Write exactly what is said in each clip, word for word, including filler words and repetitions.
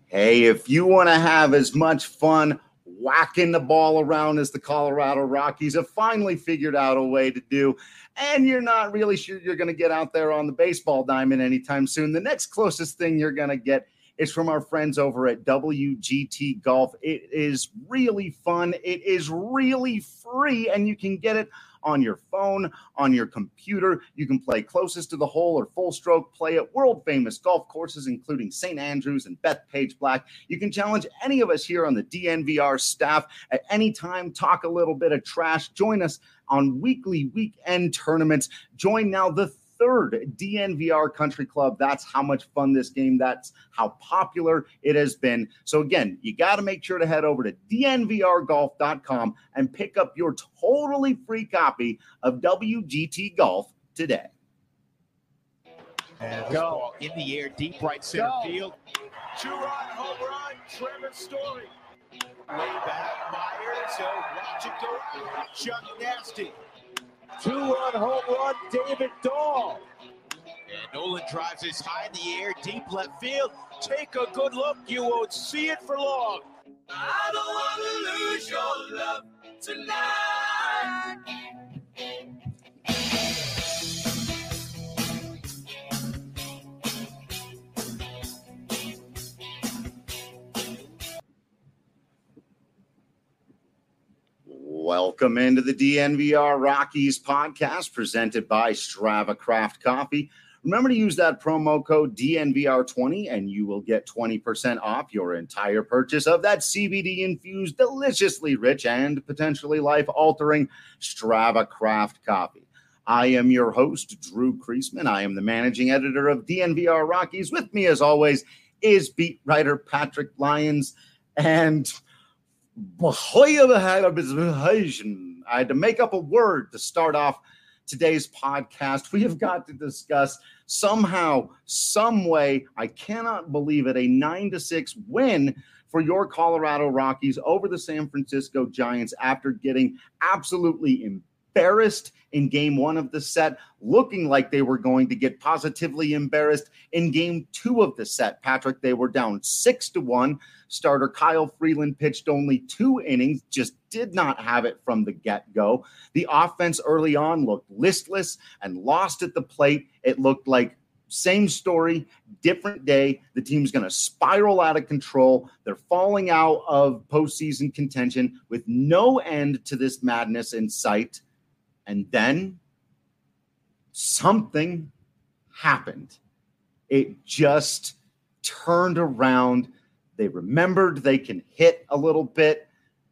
Hey, if you want to have as much fun whacking the ball around as the Colorado Rockies have finally figured out a way to do, and you're not really sure you're going to get out there on the baseball diamond anytime soon, the next closest thing you're going to get is from our friends over at W G T Golf. It is really fun. It is really free, and you can get it on your phone, on your computer. You can play closest to the hole or full stroke play at world-famous golf courses, including Saint Andrews and Bethpage Black. You can challenge any of us here on the D N V R staff at any time, talk a little bit of trash, join us on weekly weekend tournaments. Join now the third D N V R Country Club. That's how much fun this game, that's how popular it has been. So again, you got to make sure to head over to D N V R golf dot com and pick up your totally free copy of W G T Golf today. And go in the air, deep right center go. Field. Two-run home run, Trevor Story. Way back, Myers, so watch it go. Chuck Nasty. Two-run home run, David Dahl. And Nolan drives this high in the air, deep left field. Take a good look. You won't see it for long. I don't want to lose your love tonight. Welcome into the D N V R Rockies podcast presented by Strava Craft Coffee. Remember to use that promo code D N V R twenty and you will get twenty percent off your entire purchase of that C B D-infused, deliciously rich, and potentially life-altering Strava Craft Coffee. I am your host, Drew Kreisman. I am the managing editor of D N V R Rockies. With me, as always, is beat writer Patrick Lyons. And I had to make up a word to start off today's podcast. We have got to discuss somehow, some way, I cannot believe it, a nine to six win for your Colorado Rockies over the San Francisco Giants after getting absolutely embarrassed in game one of the set, looking like they were going to get positively embarrassed in game two of the set. Patrick, they were down six to one. Starter Kyle Freeland pitched only two innings, just did not have it from the get-go. The offense early on looked listless and lost at the plate. It looked like same story, different day. The team's going to spiral out of control. They're falling out of postseason contention with no end to this madness in sight. And then something happened. It just turned around. They remembered they can hit a little bit.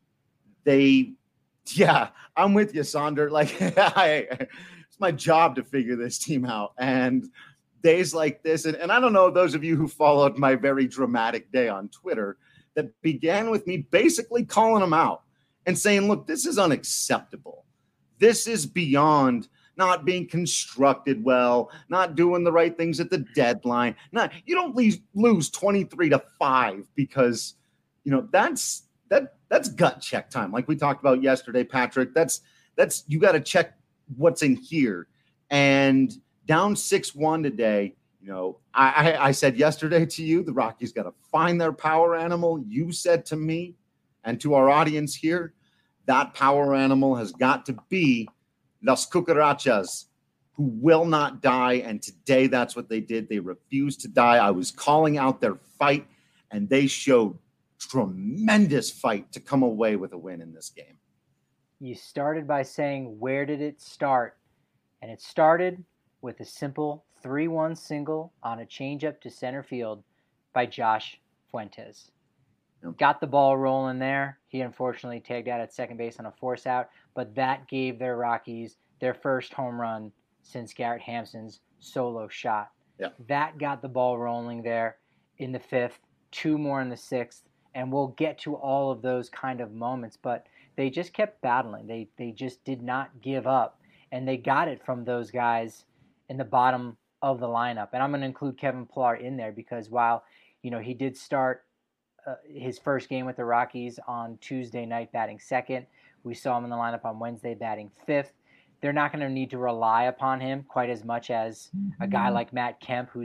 They, yeah, I'm with you, Sonder. Like, I, it's my job to figure this team out. And days like this, and, and I don't know, those of you who followed my very dramatic day on Twitter, that began with me basically calling them out and saying, look, this is unacceptable. This is beyond not being constructed well, not doing the right things at the deadline. Not, you don't lose, lose twenty-three to five because, you know, that's that that's gut check time. Like we talked about yesterday, Patrick, that's that's you got to check what's in here. And down six one today, you know, I, I, I said yesterday to you, the Rockies got to find their power animal. You said to me and to our audience here, that power animal has got to be Las Cucarachas, who will not die. And today that's what they did. They refused to die. I was calling out their fight, and they showed tremendous fight to come away with a win in this game. You started by saying, where did it start? And it started with a simple three one single on a changeup to center field by Josh Fuentes. Yep. Got the ball rolling there. He unfortunately tagged out at second base on a force out, but that gave their Rockies their first home run since Garrett Hampson's solo shot. Yep. That got the ball rolling there in the fifth, two more in the sixth, and we'll get to all of those kind of moments, but they just kept battling. They they just did not give up, and they got it from those guys in the bottom of the lineup. And I'm going to include Kevin Pillar in there because while, you know, he did start Uh, his first game with the Rockies on Tuesday night batting second. We saw him in the lineup on Wednesday batting fifth. They're not going to need to rely upon him quite as much as a guy like Matt Kemp, who's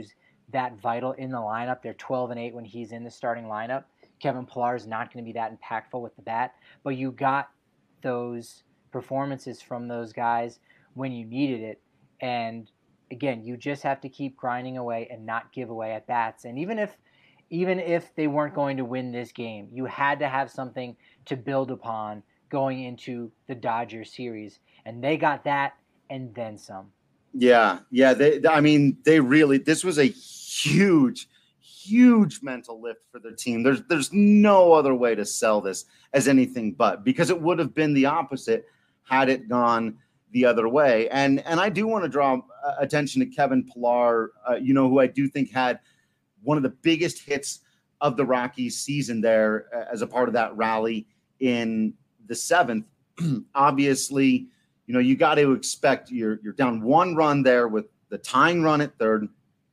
that vital in the lineup. They're twelve and eight when he's in the starting lineup. Kevin Pillar is not going to be that impactful with the bat, but you got those performances from those guys when you needed it. And again, you just have to keep grinding away and not give away at bats. And even if even if they weren't going to win this game, you had to have something to build upon going into the Dodgers series. And they got that and then some. Yeah, yeah. They, I mean, they really, this was a huge, huge mental lift for their team. There's, there's no other way to sell this as anything but, because it would have been the opposite had it gone the other way. And, and I do want to draw uh, attention to Kevin Pillar, uh, you know, who I do think had one of the biggest hits of the Rockies season there uh, as a part of that rally in the seventh. Obviously, you know, you got to expect you're, you're down one run there with the tying run at third,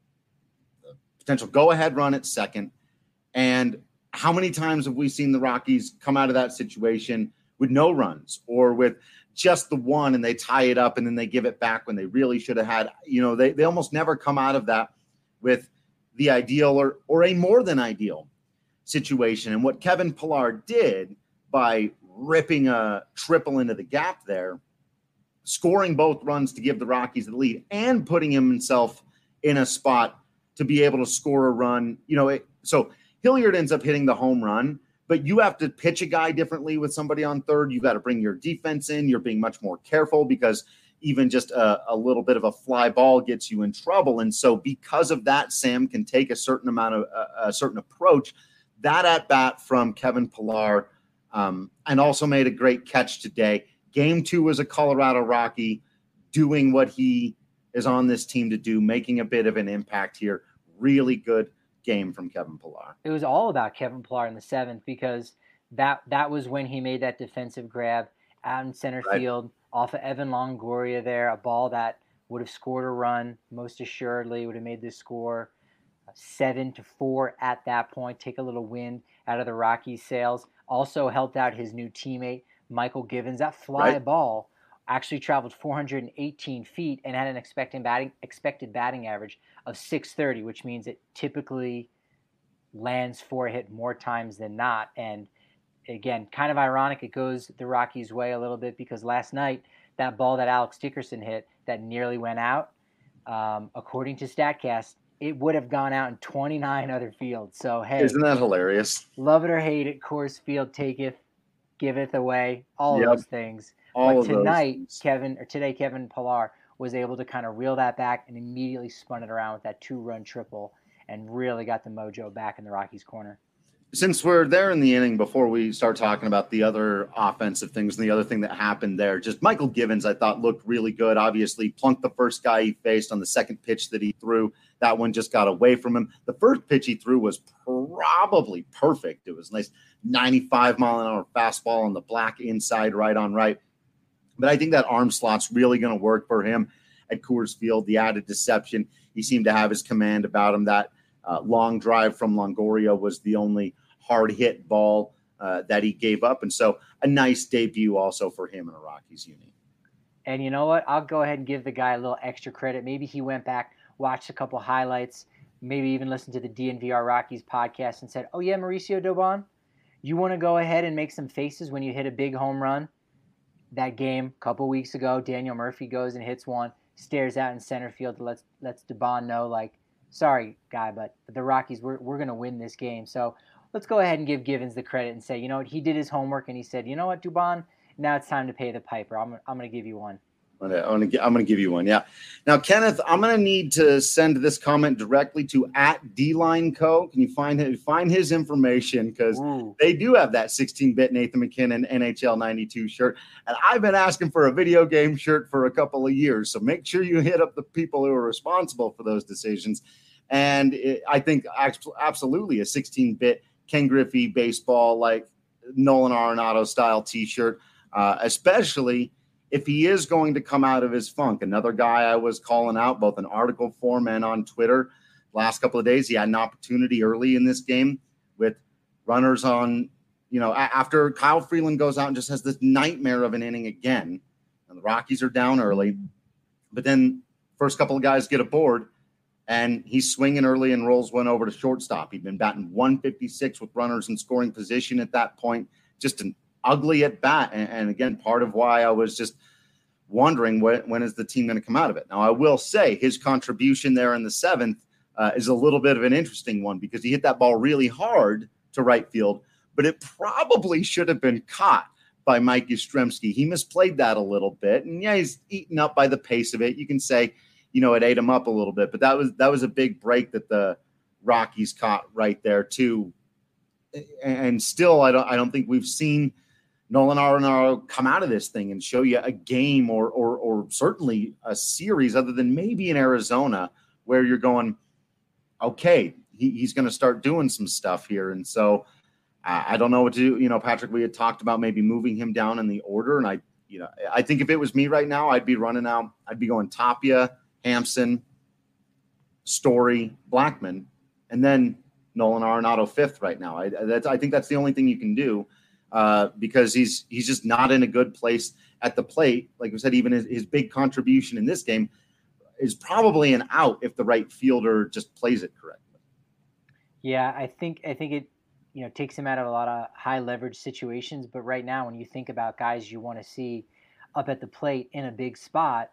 the potential go-ahead run at second. And how many times have we seen the Rockies come out of that situation with no runs or with just the one and they tie it up and then they give it back when they really should have had, you know, they, they almost never come out of that with the ideal or, or a more than ideal situation. And what Kevin Pillar did by ripping a triple into the gap there, scoring both runs to give the Rockies the lead and putting himself in a spot to be able to score a run, you know, it, so Hilliard ends up hitting the home run, but you have to pitch a guy differently with somebody on third. You've got to bring your defense in. You're being much more careful because even just a, a little bit of a fly ball gets you in trouble. And so because of that, Sam can take a certain amount of a, a certain approach. That at bat from Kevin Pillar, um, and also made a great catch today. Game two was a Colorado Rocky doing what he is on this team to do, making a bit of an impact here. Really good game from Kevin Pillar. It was all about Kevin Pillar in the seventh because that that was when he made that defensive grab out in center Right. field off of Evan Longoria there, a ball that would have scored a run, most assuredly would have made the score seven to four at that point, take a little wind out of the Rockies' sails. Also helped out his new teammate, Michael Givens. That fly Right. ball actually traveled four hundred eighteen feet and had an expected batting, expected batting average of six thirty, which means it typically lands for a hit more times than not. And again, kind of ironic, it goes the Rockies' way a little bit because last night, that ball that Alex Dickerson hit that nearly went out, um, according to StatCast, it would have gone out in twenty-nine other fields. So, hey, Isn't that hilarious? love it or hate it, Coors Field taketh, giveth away, all Yep. of those things. All but of those tonight, things. Kevin, or today, Kevin Pillar was able to kind of reel that back and immediately spun it around with that two-run triple and really got the mojo back in the Rockies' corner. Since we're there in the inning, before we start talking about the other offensive things and the other thing that happened there, just Michael Givens, I thought looked really good. Obviously, plunked the first guy he faced on the second pitch that he threw. That one just got away from him. The first pitch he threw was probably perfect. It was a nice ninety-five mile an hour fastball on the black inside, right on right. But I think that arm slot's really going to work for him at Coors Field. The added deception, he seemed to have his command about him. That Uh, long drive from Longoria was the only hard hit ball uh, that he gave up. And so a nice debut also for him in a Rockies uni. And you know what? I'll go ahead and give the guy a little extra credit. Maybe he went back, watched a couple highlights, maybe even listened to the D N V R Rockies podcast and said, oh, yeah, Mauricio Dubon, you want to go ahead and make some faces when you hit a big home run? That game a couple weeks ago, Daniel Murphy goes and hits one, stares out in center field, lets, lets Dubon know, like, sorry, guy, but the Rockies, we're, we're going to win this game. So let's go ahead and give Givens the credit and say, you know what, he did his homework and he said, you know what, Dubon, now it's time to pay the piper. I'm, I'm going to give you one. I'm going to I'm going to give you one. Yeah. Now, Kenneth, I'm going to need to send this comment directly to at D-Line Co. Can you find him, find his information? Because they do have that sixteen-bit Nathan McKinnon N H L ninety-two shirt. And I've been asking for a video game shirt for a couple of years. So make sure you hit up the people who are responsible for those decisions. And it, I think absolutely a sixteen-bit Ken Griffey baseball, like Nolan Arenado style T-shirt, uh, especially if he is going to come out of his funk. Another guy I was calling out both in article form and on Twitter last couple of days, he had an opportunity early in this game with runners on, you know, after Kyle Freeland goes out and just has this nightmare of an inning again, and the Rockies are down early, but then first couple of guys get aboard, and he's swinging early and rolls one over to shortstop. He'd been batting one fifty-six with runners in scoring position at that point. Just an ugly at bat. And, and again, part of why I was just wondering when, when is the team going to come out of it. Now, I will say his contribution there in the seventh uh, is a little bit of an interesting one because he hit that ball really hard to right field, but it probably should have been caught by Mike Yastrzemski. He misplayed that a little bit, and yeah, he's eaten up by the pace of it. You can say, you know, it ate him up a little bit, but that was that was a big break that the Rockies caught right there too. And still, I don't I don't think we've seen Nolan Arenado come out of this thing and show you a game or or or certainly a series other than maybe in Arizona where you're going, okay, he, he's going to start doing some stuff here. And so uh, I don't know what to do. You know, Patrick, we had talked about maybe moving him down in the order. And I, you know, I think if it was me right now, I'd be running out. I'd be going Tapia, Hampson, Story, Blackmon, and then Nolan Arenado fifth right now. I, that's, I think that's the only thing you can do. Uh, because he's he's just not in a good place at the plate. Like I said, even his, his big contribution in this game is probably an out if the right fielder just plays it correctly. Yeah, I think I think it you know takes him out of a lot of high leverage situations. But right now, when you think about guys you want to see up at the plate in a big spot,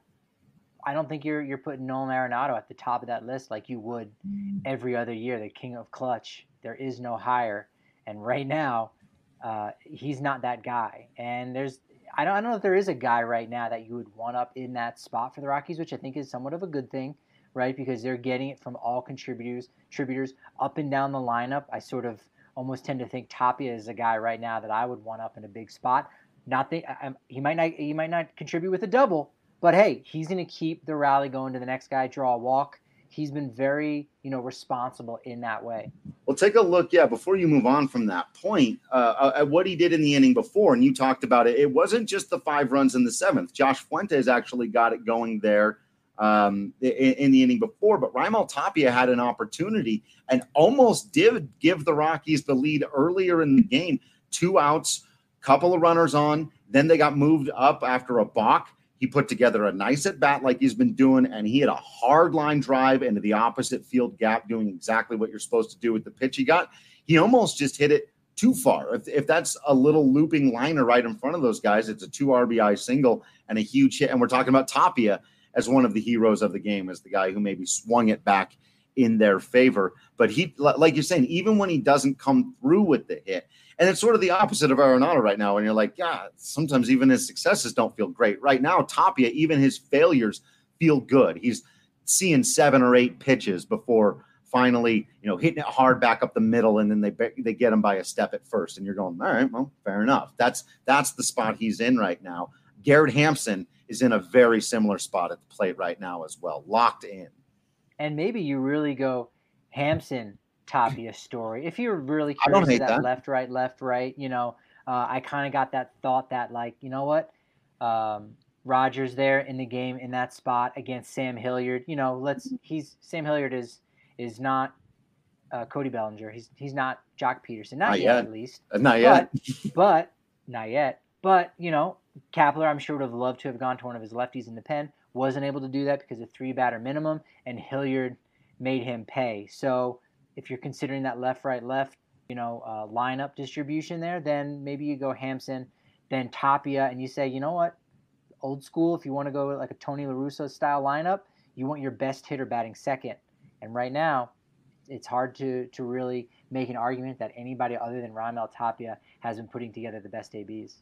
I don't think you're you're putting Nolan Arenado at the top of that list like you would every other year. The king of clutch. There is no higher, and right now. Uh, he's not that guy. And there's, I don't, I don't know if there is a guy right now that you would want up in that spot for the Rockies, which I think is somewhat of a good thing, right? Because they're getting it from all contributors, contributors up and down the lineup. I sort of almost tend to think Tapia is a guy right now that I would want up in a big spot. Not that I, he might not, he might not contribute with a double, but hey, he's going to keep the rally going to the next guy, draw a walk. He's been very, you know, responsible in that way. Well, take a look, yeah, before you move on from that point, uh, at what he did in the inning before, and you talked about it. It wasn't just the five runs in the seventh. Josh Fuentes actually got it going there um, in, in the inning before, but Raimel Tapia had an opportunity and almost did give the Rockies the lead earlier in the game. Two outs, couple of runners on, then they got moved up after a balk. He put together a nice at-bat like he's been doing, and he had a hard line drive into the opposite field gap, doing exactly what you're supposed to do with the pitch he got. He almost just hit it too far. If, if that's a little looping liner right in front of those guys, it's a two R B I single and a huge hit. And we're talking about Tapia as one of the heroes of the game, as the guy who maybe swung it back in their favor. But he, like you're saying, even when he doesn't come through with the hit, and it's sort of the opposite of Arenado right now. And you're like, yeah, sometimes even his successes don't feel great. Right now, Tapia, even his failures feel good. He's seeing seven or eight pitches before finally, you know, hitting it hard back up the middle, and then they they get him by a step at first. And you're going, all right, well, fair enough. That's that's the spot he's in right now. Garrett Hampson is in a very similar spot at the plate right now as well, locked in. And maybe you really go Hampson, Tapia story. If you're really curious to that, that left, right, left, right, you know, uh, I kind of got that thought that, like, you know what, um, Rogers there in the game in that spot against Sam Hilliard. You know, let's he's Sam Hilliard is is not uh, Cody Bellinger. He's he's not Jock Peterson, not, not yet, yet at least, not yet, but, but not yet. But you know, Kapler, I'm sure would have loved to have gone to one of his lefties in the pen. Wasn't able to do that because of three batter minimum, and Hilliard made him pay. So if you're considering that left, right, left, you know, uh, lineup distribution there, then maybe you go Hampson, then Tapia, and you say, you know what, old school, if you want to go like a Tony La Russa style lineup, you want your best hitter batting second. And right now, it's hard to to really make an argument that anybody other than Raimel Tapia has been putting together the best A Bs.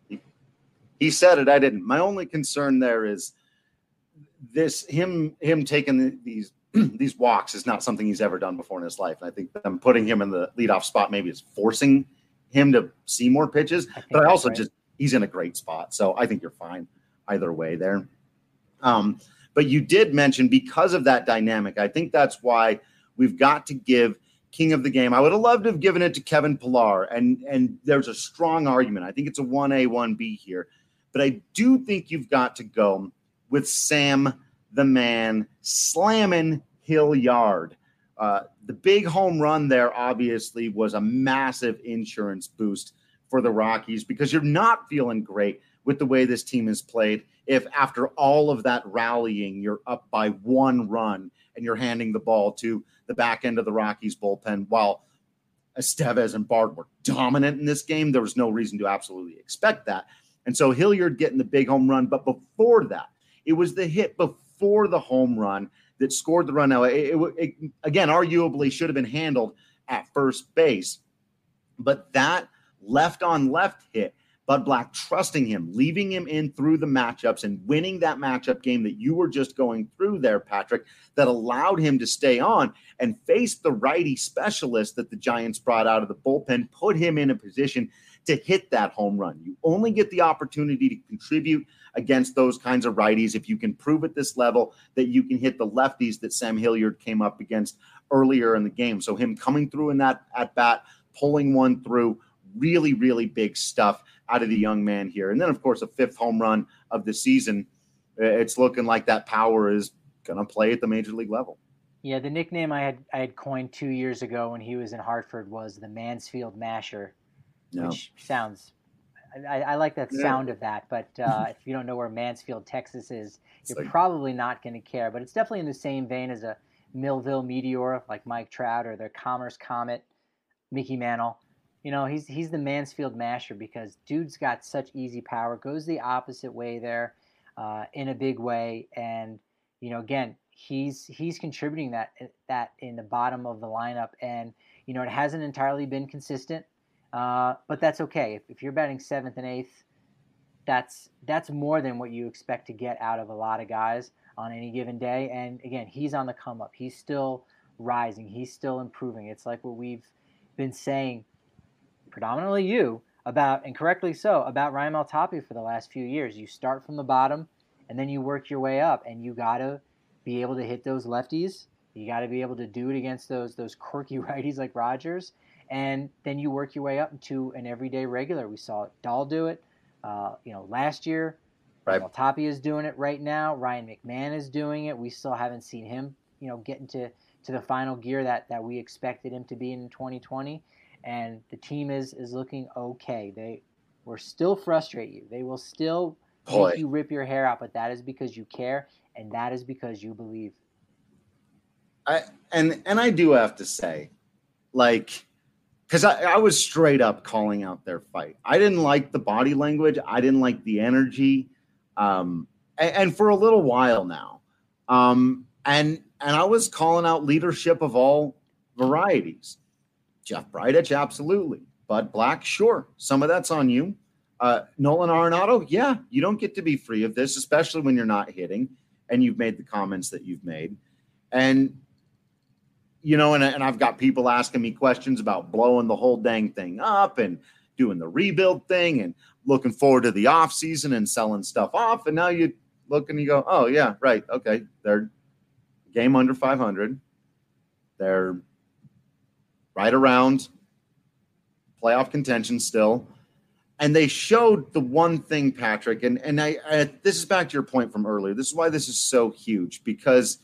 He said it, I didn't. My only concern there is this him him taking the, these these walks is not something he's ever done before in his life. And I think them putting him in the leadoff spot maybe is forcing him to see more pitches. I but I also right. just he's in a great spot. So I think you're fine either way there. Um, but you did mention because of that dynamic, I think that's why we've got to give king of the game. I would have loved to have given it to Kevin Pillar, and and there's a strong argument. I think it's a one A, one B here. But I do think you've got to go with Sam the man slamming Hilliard. Uh, the big home run there obviously was a massive insurance boost for the Rockies because you're not feeling great with the way this team has played if after all of that rallying, you're up by one run and you're handing the ball to the back end of the Rockies bullpen while Estevez and Bard were dominant in this game. There was no reason to absolutely expect that. And so Hilliard getting the big home run. But before that, it was the hit before the home run that scored the run. Now, it, it, it again, arguably should have been handled at first base. But that left on left hit, Bud Black trusting him, leaving him in through the matchups and winning that matchup game that you were just going through there, Patrick, that allowed him to stay on and face the righty specialist that the Giants brought out of the bullpen, put him in a position to hit that home run. You only get the opportunity to contribute against those kinds of righties if you can prove at this level that you can hit the lefties that Sam Hilliard came up against earlier in the game. So him coming through in that at bat, pulling one through, really, really big stuff out of the young man here. And then, of course, a fifth home run of the season. It's looking like that power is going to play at the major league level. Yeah, the nickname I had I had coined two years ago when he was in Hartford was the Mansfield Masher, No. which sounds I, I like that Yeah. sound of that. But uh, if you don't know where Mansfield, Texas is, It's you're like- probably not going to care. But it's definitely in the same vein as a Millville Meteor, like Mike Trout, or the Commerce Comet, Mickey Mantle. You know, he's he's the Mansfield Masher because dude's got such easy power, goes the opposite way there uh, in a big way. And, you know, again, he's he's contributing that that in the bottom of the lineup. And, you know, it hasn't entirely been consistent, uh, but that's okay. If, if you're batting seventh and eighth, that's that's more than what you expect to get out of a lot of guys on any given day. And, again, he's on the come up. He's still rising. He's still improving. It's like what we've been saying, predominantly you, about, and correctly so, about Ryan Maltapia for the last few years. You start from the bottom, and then you work your way up, and you got to be able to hit those lefties. You got to be able to do it against those those quirky righties like Rogers, and then you work your way up into an everyday regular. We saw Dahl do it, uh, you know, last year. Right. Maltapia is doing it right now. Ryan McMahon is doing it. We still haven't seen him, you know, get into to the final gear that, that we expected him to be in twenty twenty. And the team is is looking okay. They will still frustrate you. They will still Boy. make you rip your hair out, but that is because you care, and that is because you believe. I and and I do have to say, like, because I, I was straight up calling out their fight. I didn't like the body language. I didn't like the energy, um, and, and for a little while now, um, and and I was calling out leadership of all varieties. Jeff Bridich, absolutely. Bud Black, sure. Some of that's on you. Uh, Nolan Arenado, yeah, you don't get to be free of this, especially when you're not hitting, and you've made the comments that you've made. And, you know, and, and I've got people asking me questions about blowing the whole dang thing up and doing the rebuild thing and looking forward to the off season and selling stuff off. And now you look and you go, oh, yeah, right. Okay. They're game under five hundred. They're right around playoff contention still. And they showed the one thing, Patrick, and, and I, I this is back to your point from earlier. This is why this is so huge, because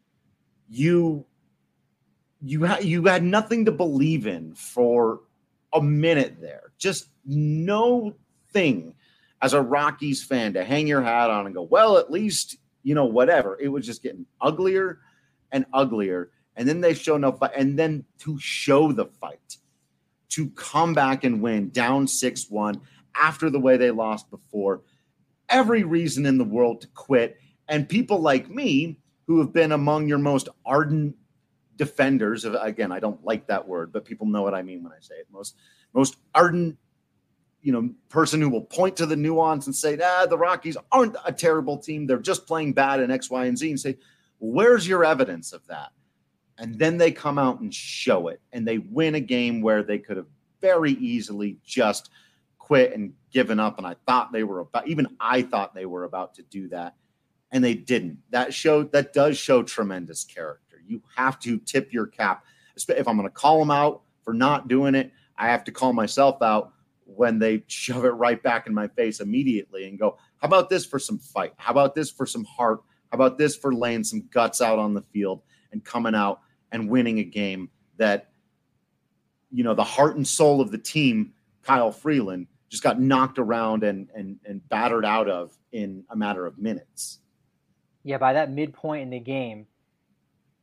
you you, ha- you had nothing to believe in for a minute there. Just no thing as a Rockies fan to hang your hat on and go, well, at least, you know, whatever. It was just getting uglier and uglier. And then they show no fight. And then to show the fight, to come back and win down six one after the way they lost before, every reason in the world to quit. And people like me, who have been among your most ardent defenders of, again, I don't like that word, but people know what I mean when I say it. Most, most ardent, you know, person who will point to the nuance and say, ah, the Rockies aren't a terrible team. They're just playing bad in X, Y, and Z, and say, where's your evidence of that? And then they come out and show it, and they win a game where they could have very easily just quit and given up. And I thought they were about, even I thought they were about to do that, and they didn't. That showed, that does show tremendous character. You have to tip your cap. If I'm going to call them out for not doing it, I have to call myself out when they shove it right back in my face immediately and go, how about this for some fight? How about this for some heart? How about this for laying some guts out on the field and coming out and winning a game that, you know, the heart and soul of the team, Kyle Freeland, just got knocked around and and and battered out of in a matter of minutes. Yeah, by that midpoint in the game,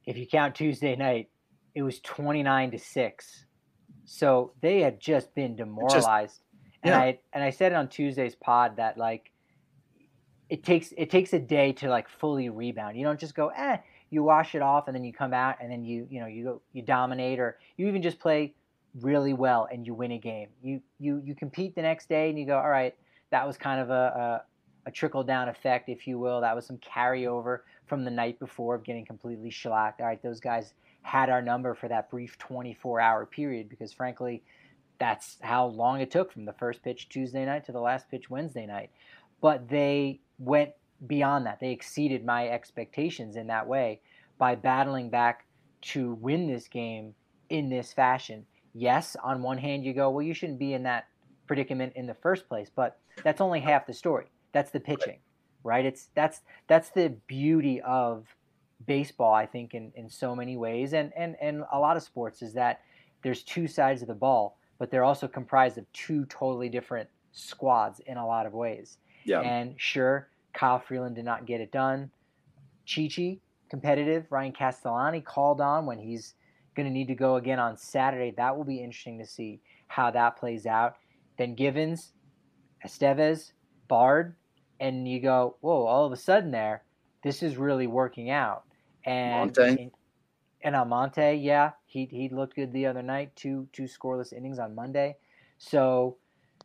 if you count Tuesday night, it was twenty-nine to six. So they had just been demoralized. Just, and yeah. I and I said it on Tuesday's pod that like it takes it takes a day to like fully rebound. You don't just go, eh, you wash it off and then you come out and then you you know you go you dominate, or you even just play really well and you win a game. You you you compete the next day and you go, all right, that was kind of a, a, a trickle down effect, if you will. That was some carryover from the night before of getting completely shellacked. All right, those guys had our number for that brief twenty-four hour period, because frankly, that's how long it took from the first pitch Tuesday night to the last pitch Wednesday night. But they went beyond that. They exceeded my expectations in that way by battling back to win this game in this fashion. Yes, on one hand you go, well, you shouldn't be in that predicament in the first place, but that's only half the story. That's the pitching, right? It's that's that's the beauty of baseball, I think, in, in so many ways, and, and, and a lot of sports, is that there's two sides of the ball, but they're also comprised of two totally different squads in a lot of ways. Yeah. And sure, Kyle Freeland did not get it done. Chichi, competitive. Ryan Castellani called on when he's going to need to go again on Saturday. That will be interesting to see how that plays out. Then Givens, Estevez, Bard, and you go, whoa, all of a sudden there, this is really working out. And and, and Almonte, yeah, he he looked good the other night, two two scoreless innings on Monday. So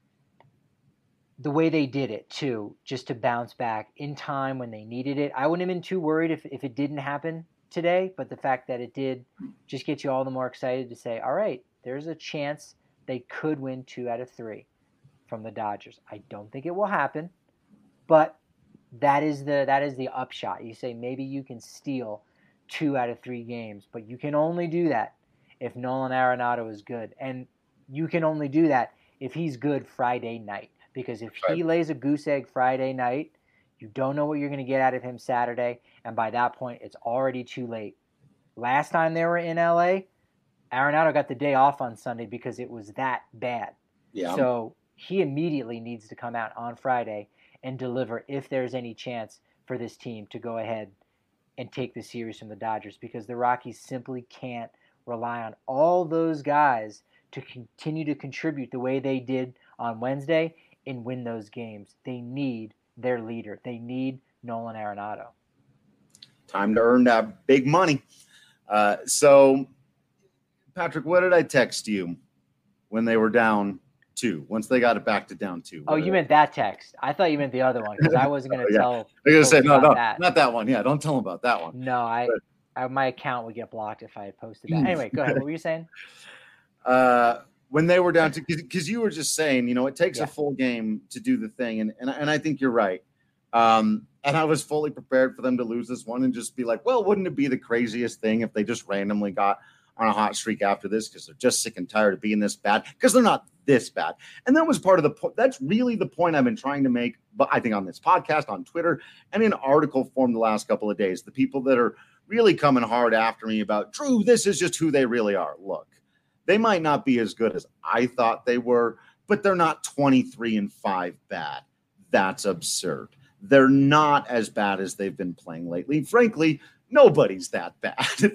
the way they did it, too, just to bounce back in time when they needed it. I wouldn't have been too worried if, if it didn't happen today, but the fact that it did just gets you all the more excited to say, all right, there's a chance they could win two out of three from the Dodgers. I don't think it will happen, but that is the that is the upshot. You say maybe you can steal two out of three games, but you can only do that if Nolan Arenado is good. And you can only do that if he's good Friday night. Because if he lays a goose egg Friday night, you don't know what you're going to get out of him Saturday, and by that point, it's already too late. Last time they were in L A, Arenado got the day off on Sunday because it was that bad. Yeah. So he immediately needs to come out on Friday and deliver if there's any chance for this team to go ahead and take the series from the Dodgers, because the Rockies simply can't rely on all those guys to continue to contribute the way they did on Wednesday and win those games. They need their leader. They need Nolan Arenado. Time to earn that big money. Uh, so, Patrick, what did I text you when they were down two, once they got it back to down two? Oh, you meant that text. I thought you meant the other one, because I wasn't going to oh, yeah. tell. I was going to say, no, no, that. not that one. Yeah, don't tell them about that one. No, I, I my account would get blocked if I had posted that. Anyway, go ahead. What were you saying? Uh, when they were down to, because you were just saying, you know, it takes yeah. a full game to do the thing. And, and, and I think you're right. Um, and I was fully prepared for them to lose this one and just be like, well, wouldn't it be the craziest thing if they just randomly got on a hot streak after this, because they're just sick and tired of being this bad, because they're not this bad. And that was part of the point. That's really the point I've been trying to make, but I think on this podcast, on Twitter, and in article form the last couple of days, the people that are really coming hard after me about, Drew, this is just who they really are. Look, they might not be as good as I thought they were, but they're not twenty-three and five bad. That's absurd. They're not as bad as they've been playing lately. Frankly, nobody's that bad.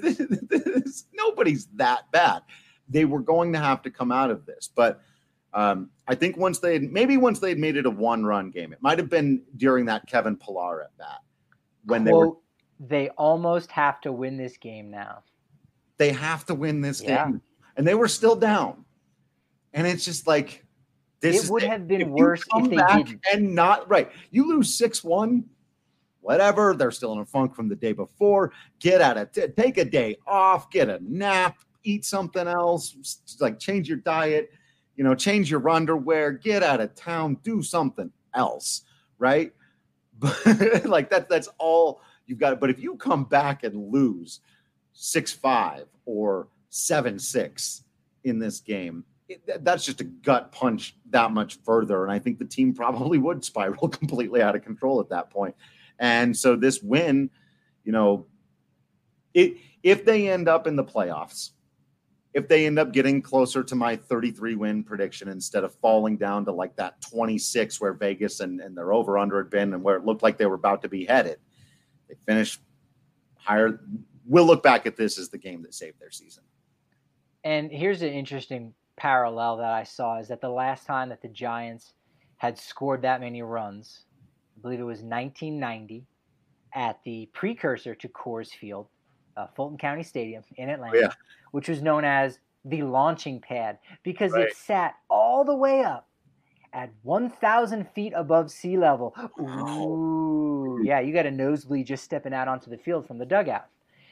Nobody's that bad. They were going to have to come out of this. But um, I think once they maybe once they'd made it a one-run game, it might have been during that Kevin Pillar at bat when they Quote, were. They almost have to win this game now. They have to win this yeah. game. And they were still down. And it's just like, this it would is, have been worse if they didn't. And not right. You lose six one, whatever. They're still in a funk from the day before. Get out of t- take a day off, get a nap, eat something else, like change your diet, you know, change your underwear, get out of town, do something else, right? But like that, that's all you've got. But if you come back and lose six five or seven six in this game, it, that's just a gut punch that much further. And I think the team probably would spiral completely out of control at that point. And so this win, you know, it, if they end up in the playoffs, if they end up getting closer to my thirty-three win prediction instead of falling down to like that twenty-six where Vegas and, and their over under had been and where it looked like they were about to be headed, they finished higher we'll look back at this as the game that saved their season. And here's an interesting parallel that I saw is that the last time that the Giants had scored that many runs, I believe it was nineteen ninety at the precursor to Coors Field, uh, Fulton County Stadium in Atlanta, yeah. which was known as the launching pad because Right. it sat all the way up at one thousand feet above sea level. Ooh, yeah, you got a nosebleed just stepping out onto the field from the dugout.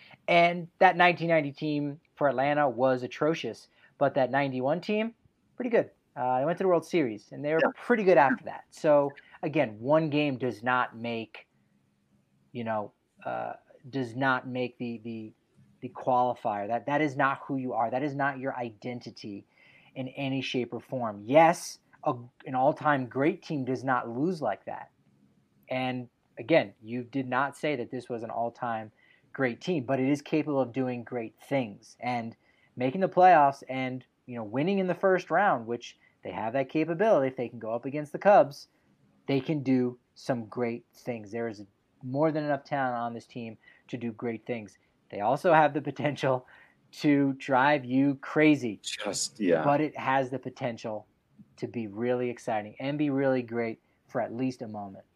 And that nineteen ninety team for Atlanta was atrocious, but that ninety-one team, pretty good. Uh, they went to the World Series, and they were Yeah. pretty good after that. So, again, one game does not make, you know, uh, does not make the the the qualifier. That that is not who you are. That is not your identity in any shape or form. Yes, a, an all-time great team does not lose like that. And again, you did not say that this was an all-time great team, but it is capable of doing great things and making the playoffs and, you know, winning in the first round, which they have that capability. If they can go up against the Cubs, they can do some great things. There is more than enough talent on this team to do great things. They also have the potential to drive you crazy. Just, yeah. But it has the potential to be really exciting and be really great for at least a moment.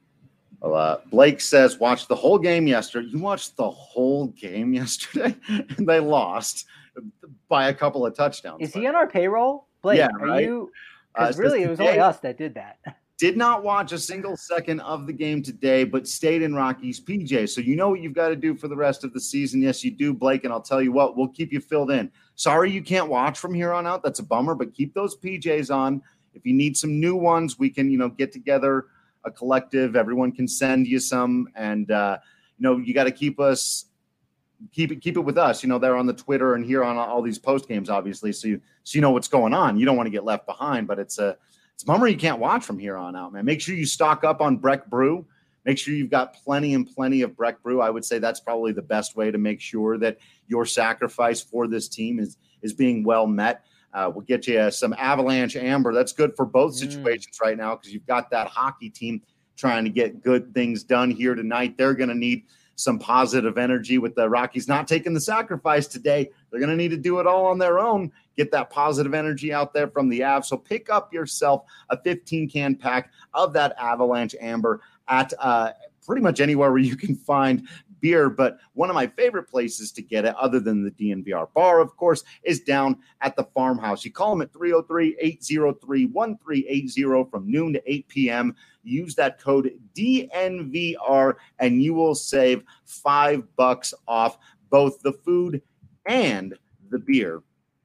Well, uh, Blake says, watch the whole game yesterday. You watched the whole game yesterday? And they lost by a couple of touchdowns. Is he on our payroll? Blake, Yeah, are right? you? Because Uh, really, says it was today- only us that did that. Did not watch a single second of the game today, but stayed in Rocky's P J. So you know what you've got to do for the rest of the season. Yes, you do, Blake, and I'll tell you what, we'll keep you filled in. Sorry you can't watch from here on out. That's a bummer, but keep those P Js on. If you need some new ones, we can, you know, get together a collective. Everyone can send you some, and uh, you know, you got to keep us keep it keep it with us. You know, they're on the Twitter and here on all these post games, obviously, so you so you know what's going on. You don't want to get left behind, but it's a It's a bummer you can't watch from here on out, man. Make sure you stock up on Breck Brew. Make sure you've got plenty and plenty of Breck Brew. I would say that's probably the best way to make sure that your sacrifice for this team is, is being well met. Uh, we'll get you uh, some Avalanche Amber. That's good for both situations mm. right now because you've got that hockey team trying to get good things done here tonight. They're going to need some positive energy with the Rockies not taking the sacrifice today. They're going to need to do it all on their own. Get that positive energy out there from the Avs. So pick up yourself a fifteen-can pack of that Avalanche Amber at uh, pretty much anywhere where you can find beer. But one of my favorite places to get it, other than the D N V R bar, of course, is down at the Farmhouse. You call them at three oh three, eight oh three, one three eight oh from noon to eight p.m. Use that code D N V R, and you will save five bucks off both the food and the beer.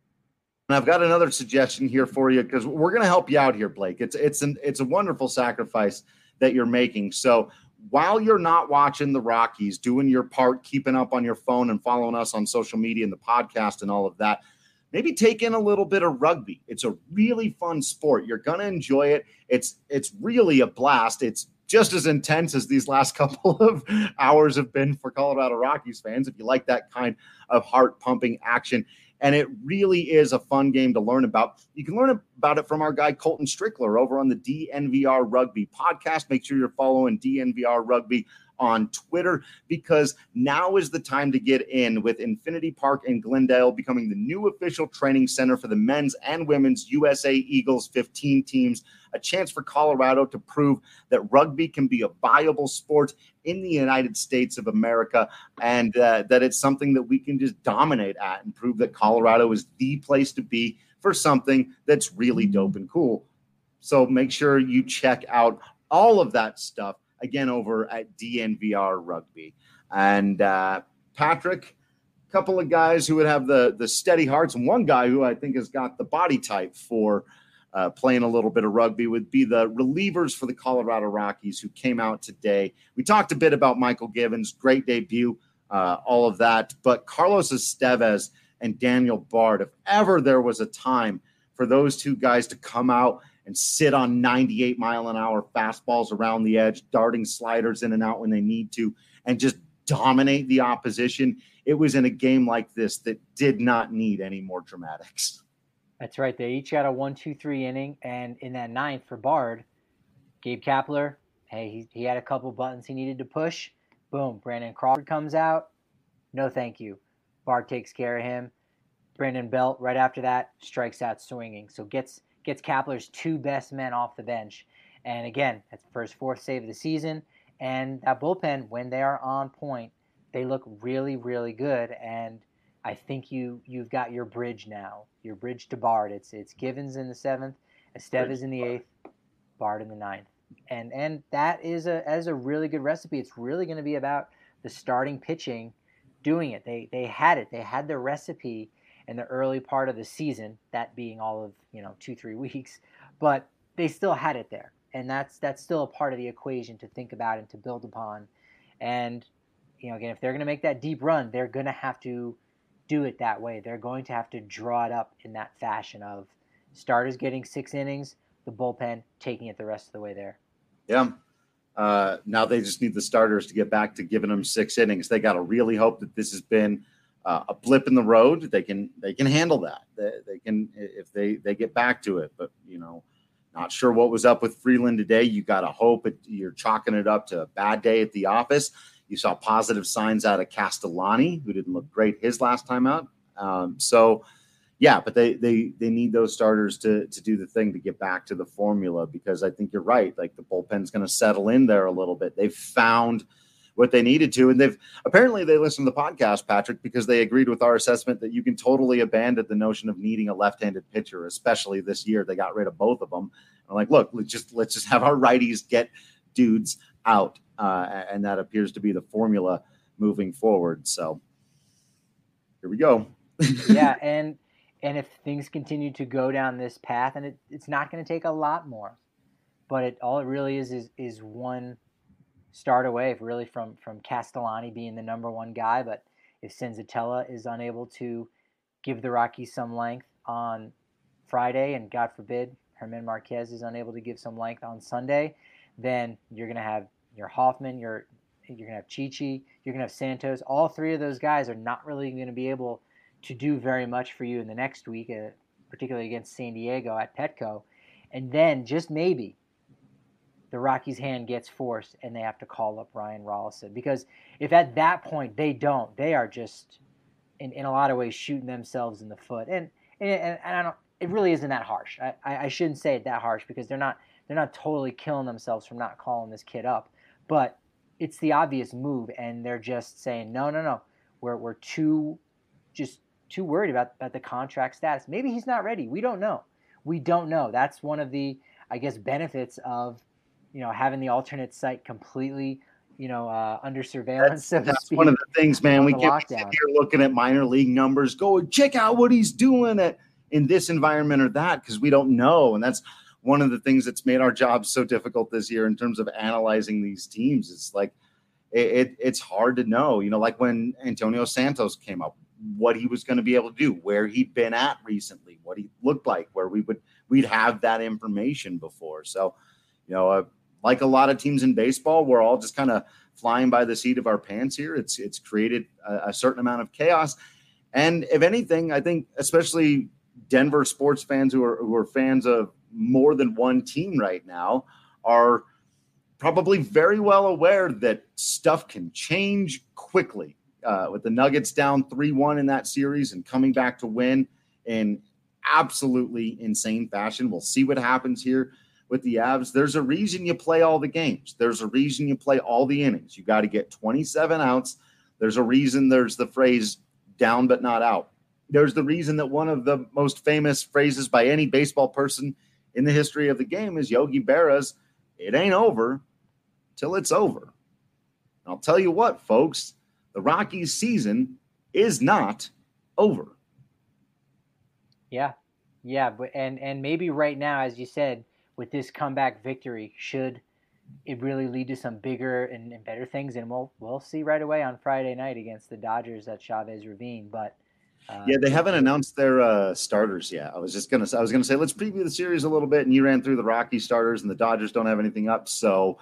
And I've got another suggestion here for you because we're going to help you out here, Blake. It's it's an it's a wonderful sacrifice that you're making. So while you're not watching the Rockies, doing your part, keeping up on your phone and following us on social media and the podcast and all of that, maybe take in a little bit of rugby. It's a really fun sport. You're going to enjoy it. It's it's really a blast. It's just as intense as these last couple of hours have been for Colorado Rockies fans, if you like that kind of heart-pumping action. And it really is a fun game to learn about. You can learn about it from our guy, Colton Strickler, over on the D N V R Rugby podcast. Make sure you're following D N V R Rugby on Twitter, because now is the time to get in with Infinity Park in Glendale becoming the new official training center for the men's and women's U S A Eagles fifteen teams. A chance for Colorado to prove that rugby can be a viable sport in the United States of America, and uh, that it's something that we can just dominate at and prove that Colorado is the place to be for something that's really dope and cool. So make sure you check out all of that stuff again over at D N V R Rugby. And uh, Patrick, a couple of guys who would have the, the steady hearts, and one guy who I think has got the body type for uh, playing a little bit of rugby would be the relievers for the Colorado Rockies who came out today. We talked a bit about Michael Givens, great debut, uh, all of that. But Carlos Estevez and Daniel Bard, if ever there was a time for those two guys to come out and sit on ninety-eight mile an hour fastballs around the edge, darting sliders in and out when they need to, and just dominate the opposition, it was in a game like this that did not need any more dramatics. That's right. They each got a one, two, three inning, and in that ninth for Bard, Gabe Kapler, hey, he, he had a couple buttons he needed to push. Boom, Brandon Crawford comes out, no thank you. Bart takes care of him. Brandon Belt, right after that, strikes out swinging. So gets gets Kapler's two best men off the bench. And again, that's the first fourth save of the season. And that bullpen, when they are on point, they look really, really good. And I think you you've got your bridge now, your bridge to Bard. It's it's Givens in the seventh, Estevez in the eighth, Bard in the ninth, and and that is a as a really good recipe. It's really going to be about the starting pitching doing it. They they had it. They had the recipe in the early part of the season, that being all of you know two three weeks, but they still had it there, and that's that's still a part of the equation to think about and to build upon. And you know, again, if they're going to make that deep run, they're going to have to do it that way. They're going to have to draw it up in that fashion of starters getting six innings, the bullpen taking it the rest of the way there. Yeah. Uh, now they just need the starters to get back to giving them six innings. They got to really hope that this has been uh, a blip in the road. They can they can handle that. They, they can if they they get back to it. But you know, not sure what was up with Freeland today. You got to hope it, you're chalking it up to a bad day at the office. You saw positive signs out of Castellani, who didn't look great his last time out. Um, so, yeah, but they they they need those starters to to do the thing to get back to the formula, because I think you're right. Like the bullpen's going to settle in there a little bit. They've found what they needed to, and they've apparently they listened to the podcast, Patrick, because they agreed with our assessment that you can totally abandon the notion of needing a left-handed pitcher, especially this year. They got rid of both of them. I'm like, look, let's just let's just have our righties get dudes out. Uh, and that appears to be the formula moving forward. So here we go. yeah, and and if things continue to go down this path, and it, it's not going to take a lot more, but it all it really is is is one start away, really, from from Castellani being the number one guy. But if Senzatella is unable to give the Rockies some length on Friday, and God forbid Herman Marquez is unable to give some length on Sunday, then you're going to have your Hoffman, you're you're gonna have Chichi, you're gonna have Santos. All three of those guys are not really going to be able to do very much for you in the next week, uh, particularly against San Diego at Petco. And then just maybe the Rockies' hand gets forced and they have to call up Ryan Rollison, because if at that point they don't, they are just in, in a lot of ways shooting themselves in the foot. And and, and I don't. It really isn't that harsh. I, I shouldn't say it that harsh, because they're not they're not totally killing themselves from not calling this kid up. But it's the obvious move, and they're just saying, no, no, no. We're we're too just too worried about, about the contract status. Maybe he's not ready. We don't know. We don't know. That's one of the, I guess, benefits of, you know, having the alternate site completely, you know, uh, under surveillance. That's, so to that's speak, one of the things, man. We can't sit lockdown. here looking at minor league numbers, go check out what he's doing at, in this environment or that, because we don't know. And that's one of the things that's made our job so difficult this year in terms of analyzing these teams. It's like it, it, it's hard to know, you know, like when Antonio Santos came up, what he was going to be able to do, where he'd been at recently, what he looked like, where we would we'd have that information before. So, you know, uh, like a lot of teams in baseball, we're all just kind of flying by the seat of our pants here. It's it's created a, a certain amount of chaos, and if anything, I think especially Denver sports fans who are who are fans of more than one team right now are probably very well aware that stuff can change quickly. Uh, with the Nuggets down three one in that series and coming back to win in absolutely insane fashion. We'll see what happens here with the Avs. There's a reason you play all the games. There's a reason you play all the innings. You got to get twenty-seven outs. There's a reason there's the phrase down but not out. There's the reason that one of the most famous phrases by any baseball person in the history of the game is Yogi Berra's, "It ain't over till it's over." And I'll tell you what, folks, the Rockies season is not over. Yeah. Yeah. But, and, and maybe right now, as you said, with this comeback victory, should it really lead to some bigger and, and better things? And we'll, we'll see right away on Friday night against the Dodgers at Chavez Ravine. But uh, yeah, they haven't announced their uh, starters yet. I was just going to, I was going to say, let's preview the series a little bit. And you ran through the Rockies starters, and the Dodgers don't have anything up. So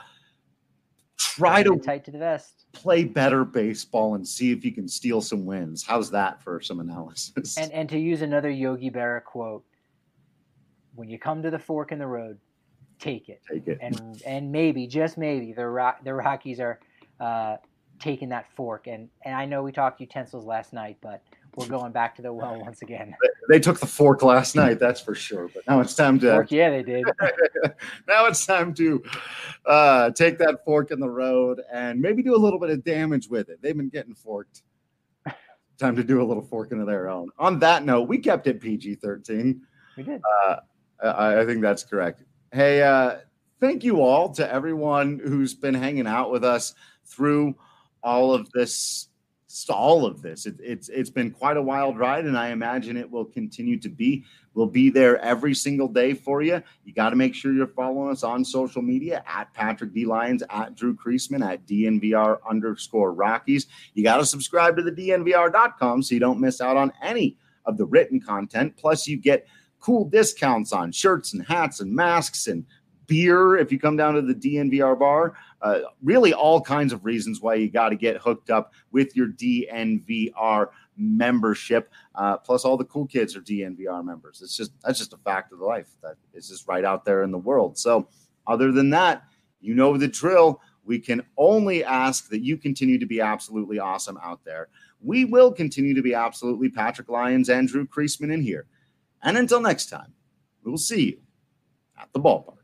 try to tight to the vest. Play better baseball and see if you can steal some wins. How's that for some analysis? And and to use another Yogi Berra quote, when you come to the fork in the road, take it. Take it. And and maybe, just maybe, the Rock, the Rockies are uh, taking that fork. And, and I know we talked utensils last night, but we're going back to the well once again. They took the fork last night, that's for sure. But now it's time to fork, yeah, they did. Now it's time to uh, take that fork in the road and maybe do a little bit of damage with it. They've been getting forked. Time to do a little forking of their own. On that note, we kept it P G thirteen. We did. Uh, I, I think that's correct. Hey, uh, thank you all to everyone who's been hanging out with us through all of this. All of this. It, it's it's been quite a wild ride, and I imagine it will continue to be. We'll be there every single day for you. You got to make sure you're following us on social media at Patrick D. Lyons, at Drew Creasman, at D N V R underscore Rockies. You got to subscribe to the D N V R dot com so you don't miss out on any of the written content. Plus, you get cool discounts on shirts and hats and masks and beer if you come down to the D N V R bar. Uh, really all kinds of reasons why you got to get hooked up with your D N V R membership. Uh, plus all the cool kids are D N V R members. It's just, that's just a fact of life that is just right out there in the world. So other than that, you know the drill. We can only ask that you continue to be absolutely awesome out there. We will continue to be absolutely Patrick Lyons and Drew Creasman in here. And until next time, we will see you at the ballpark.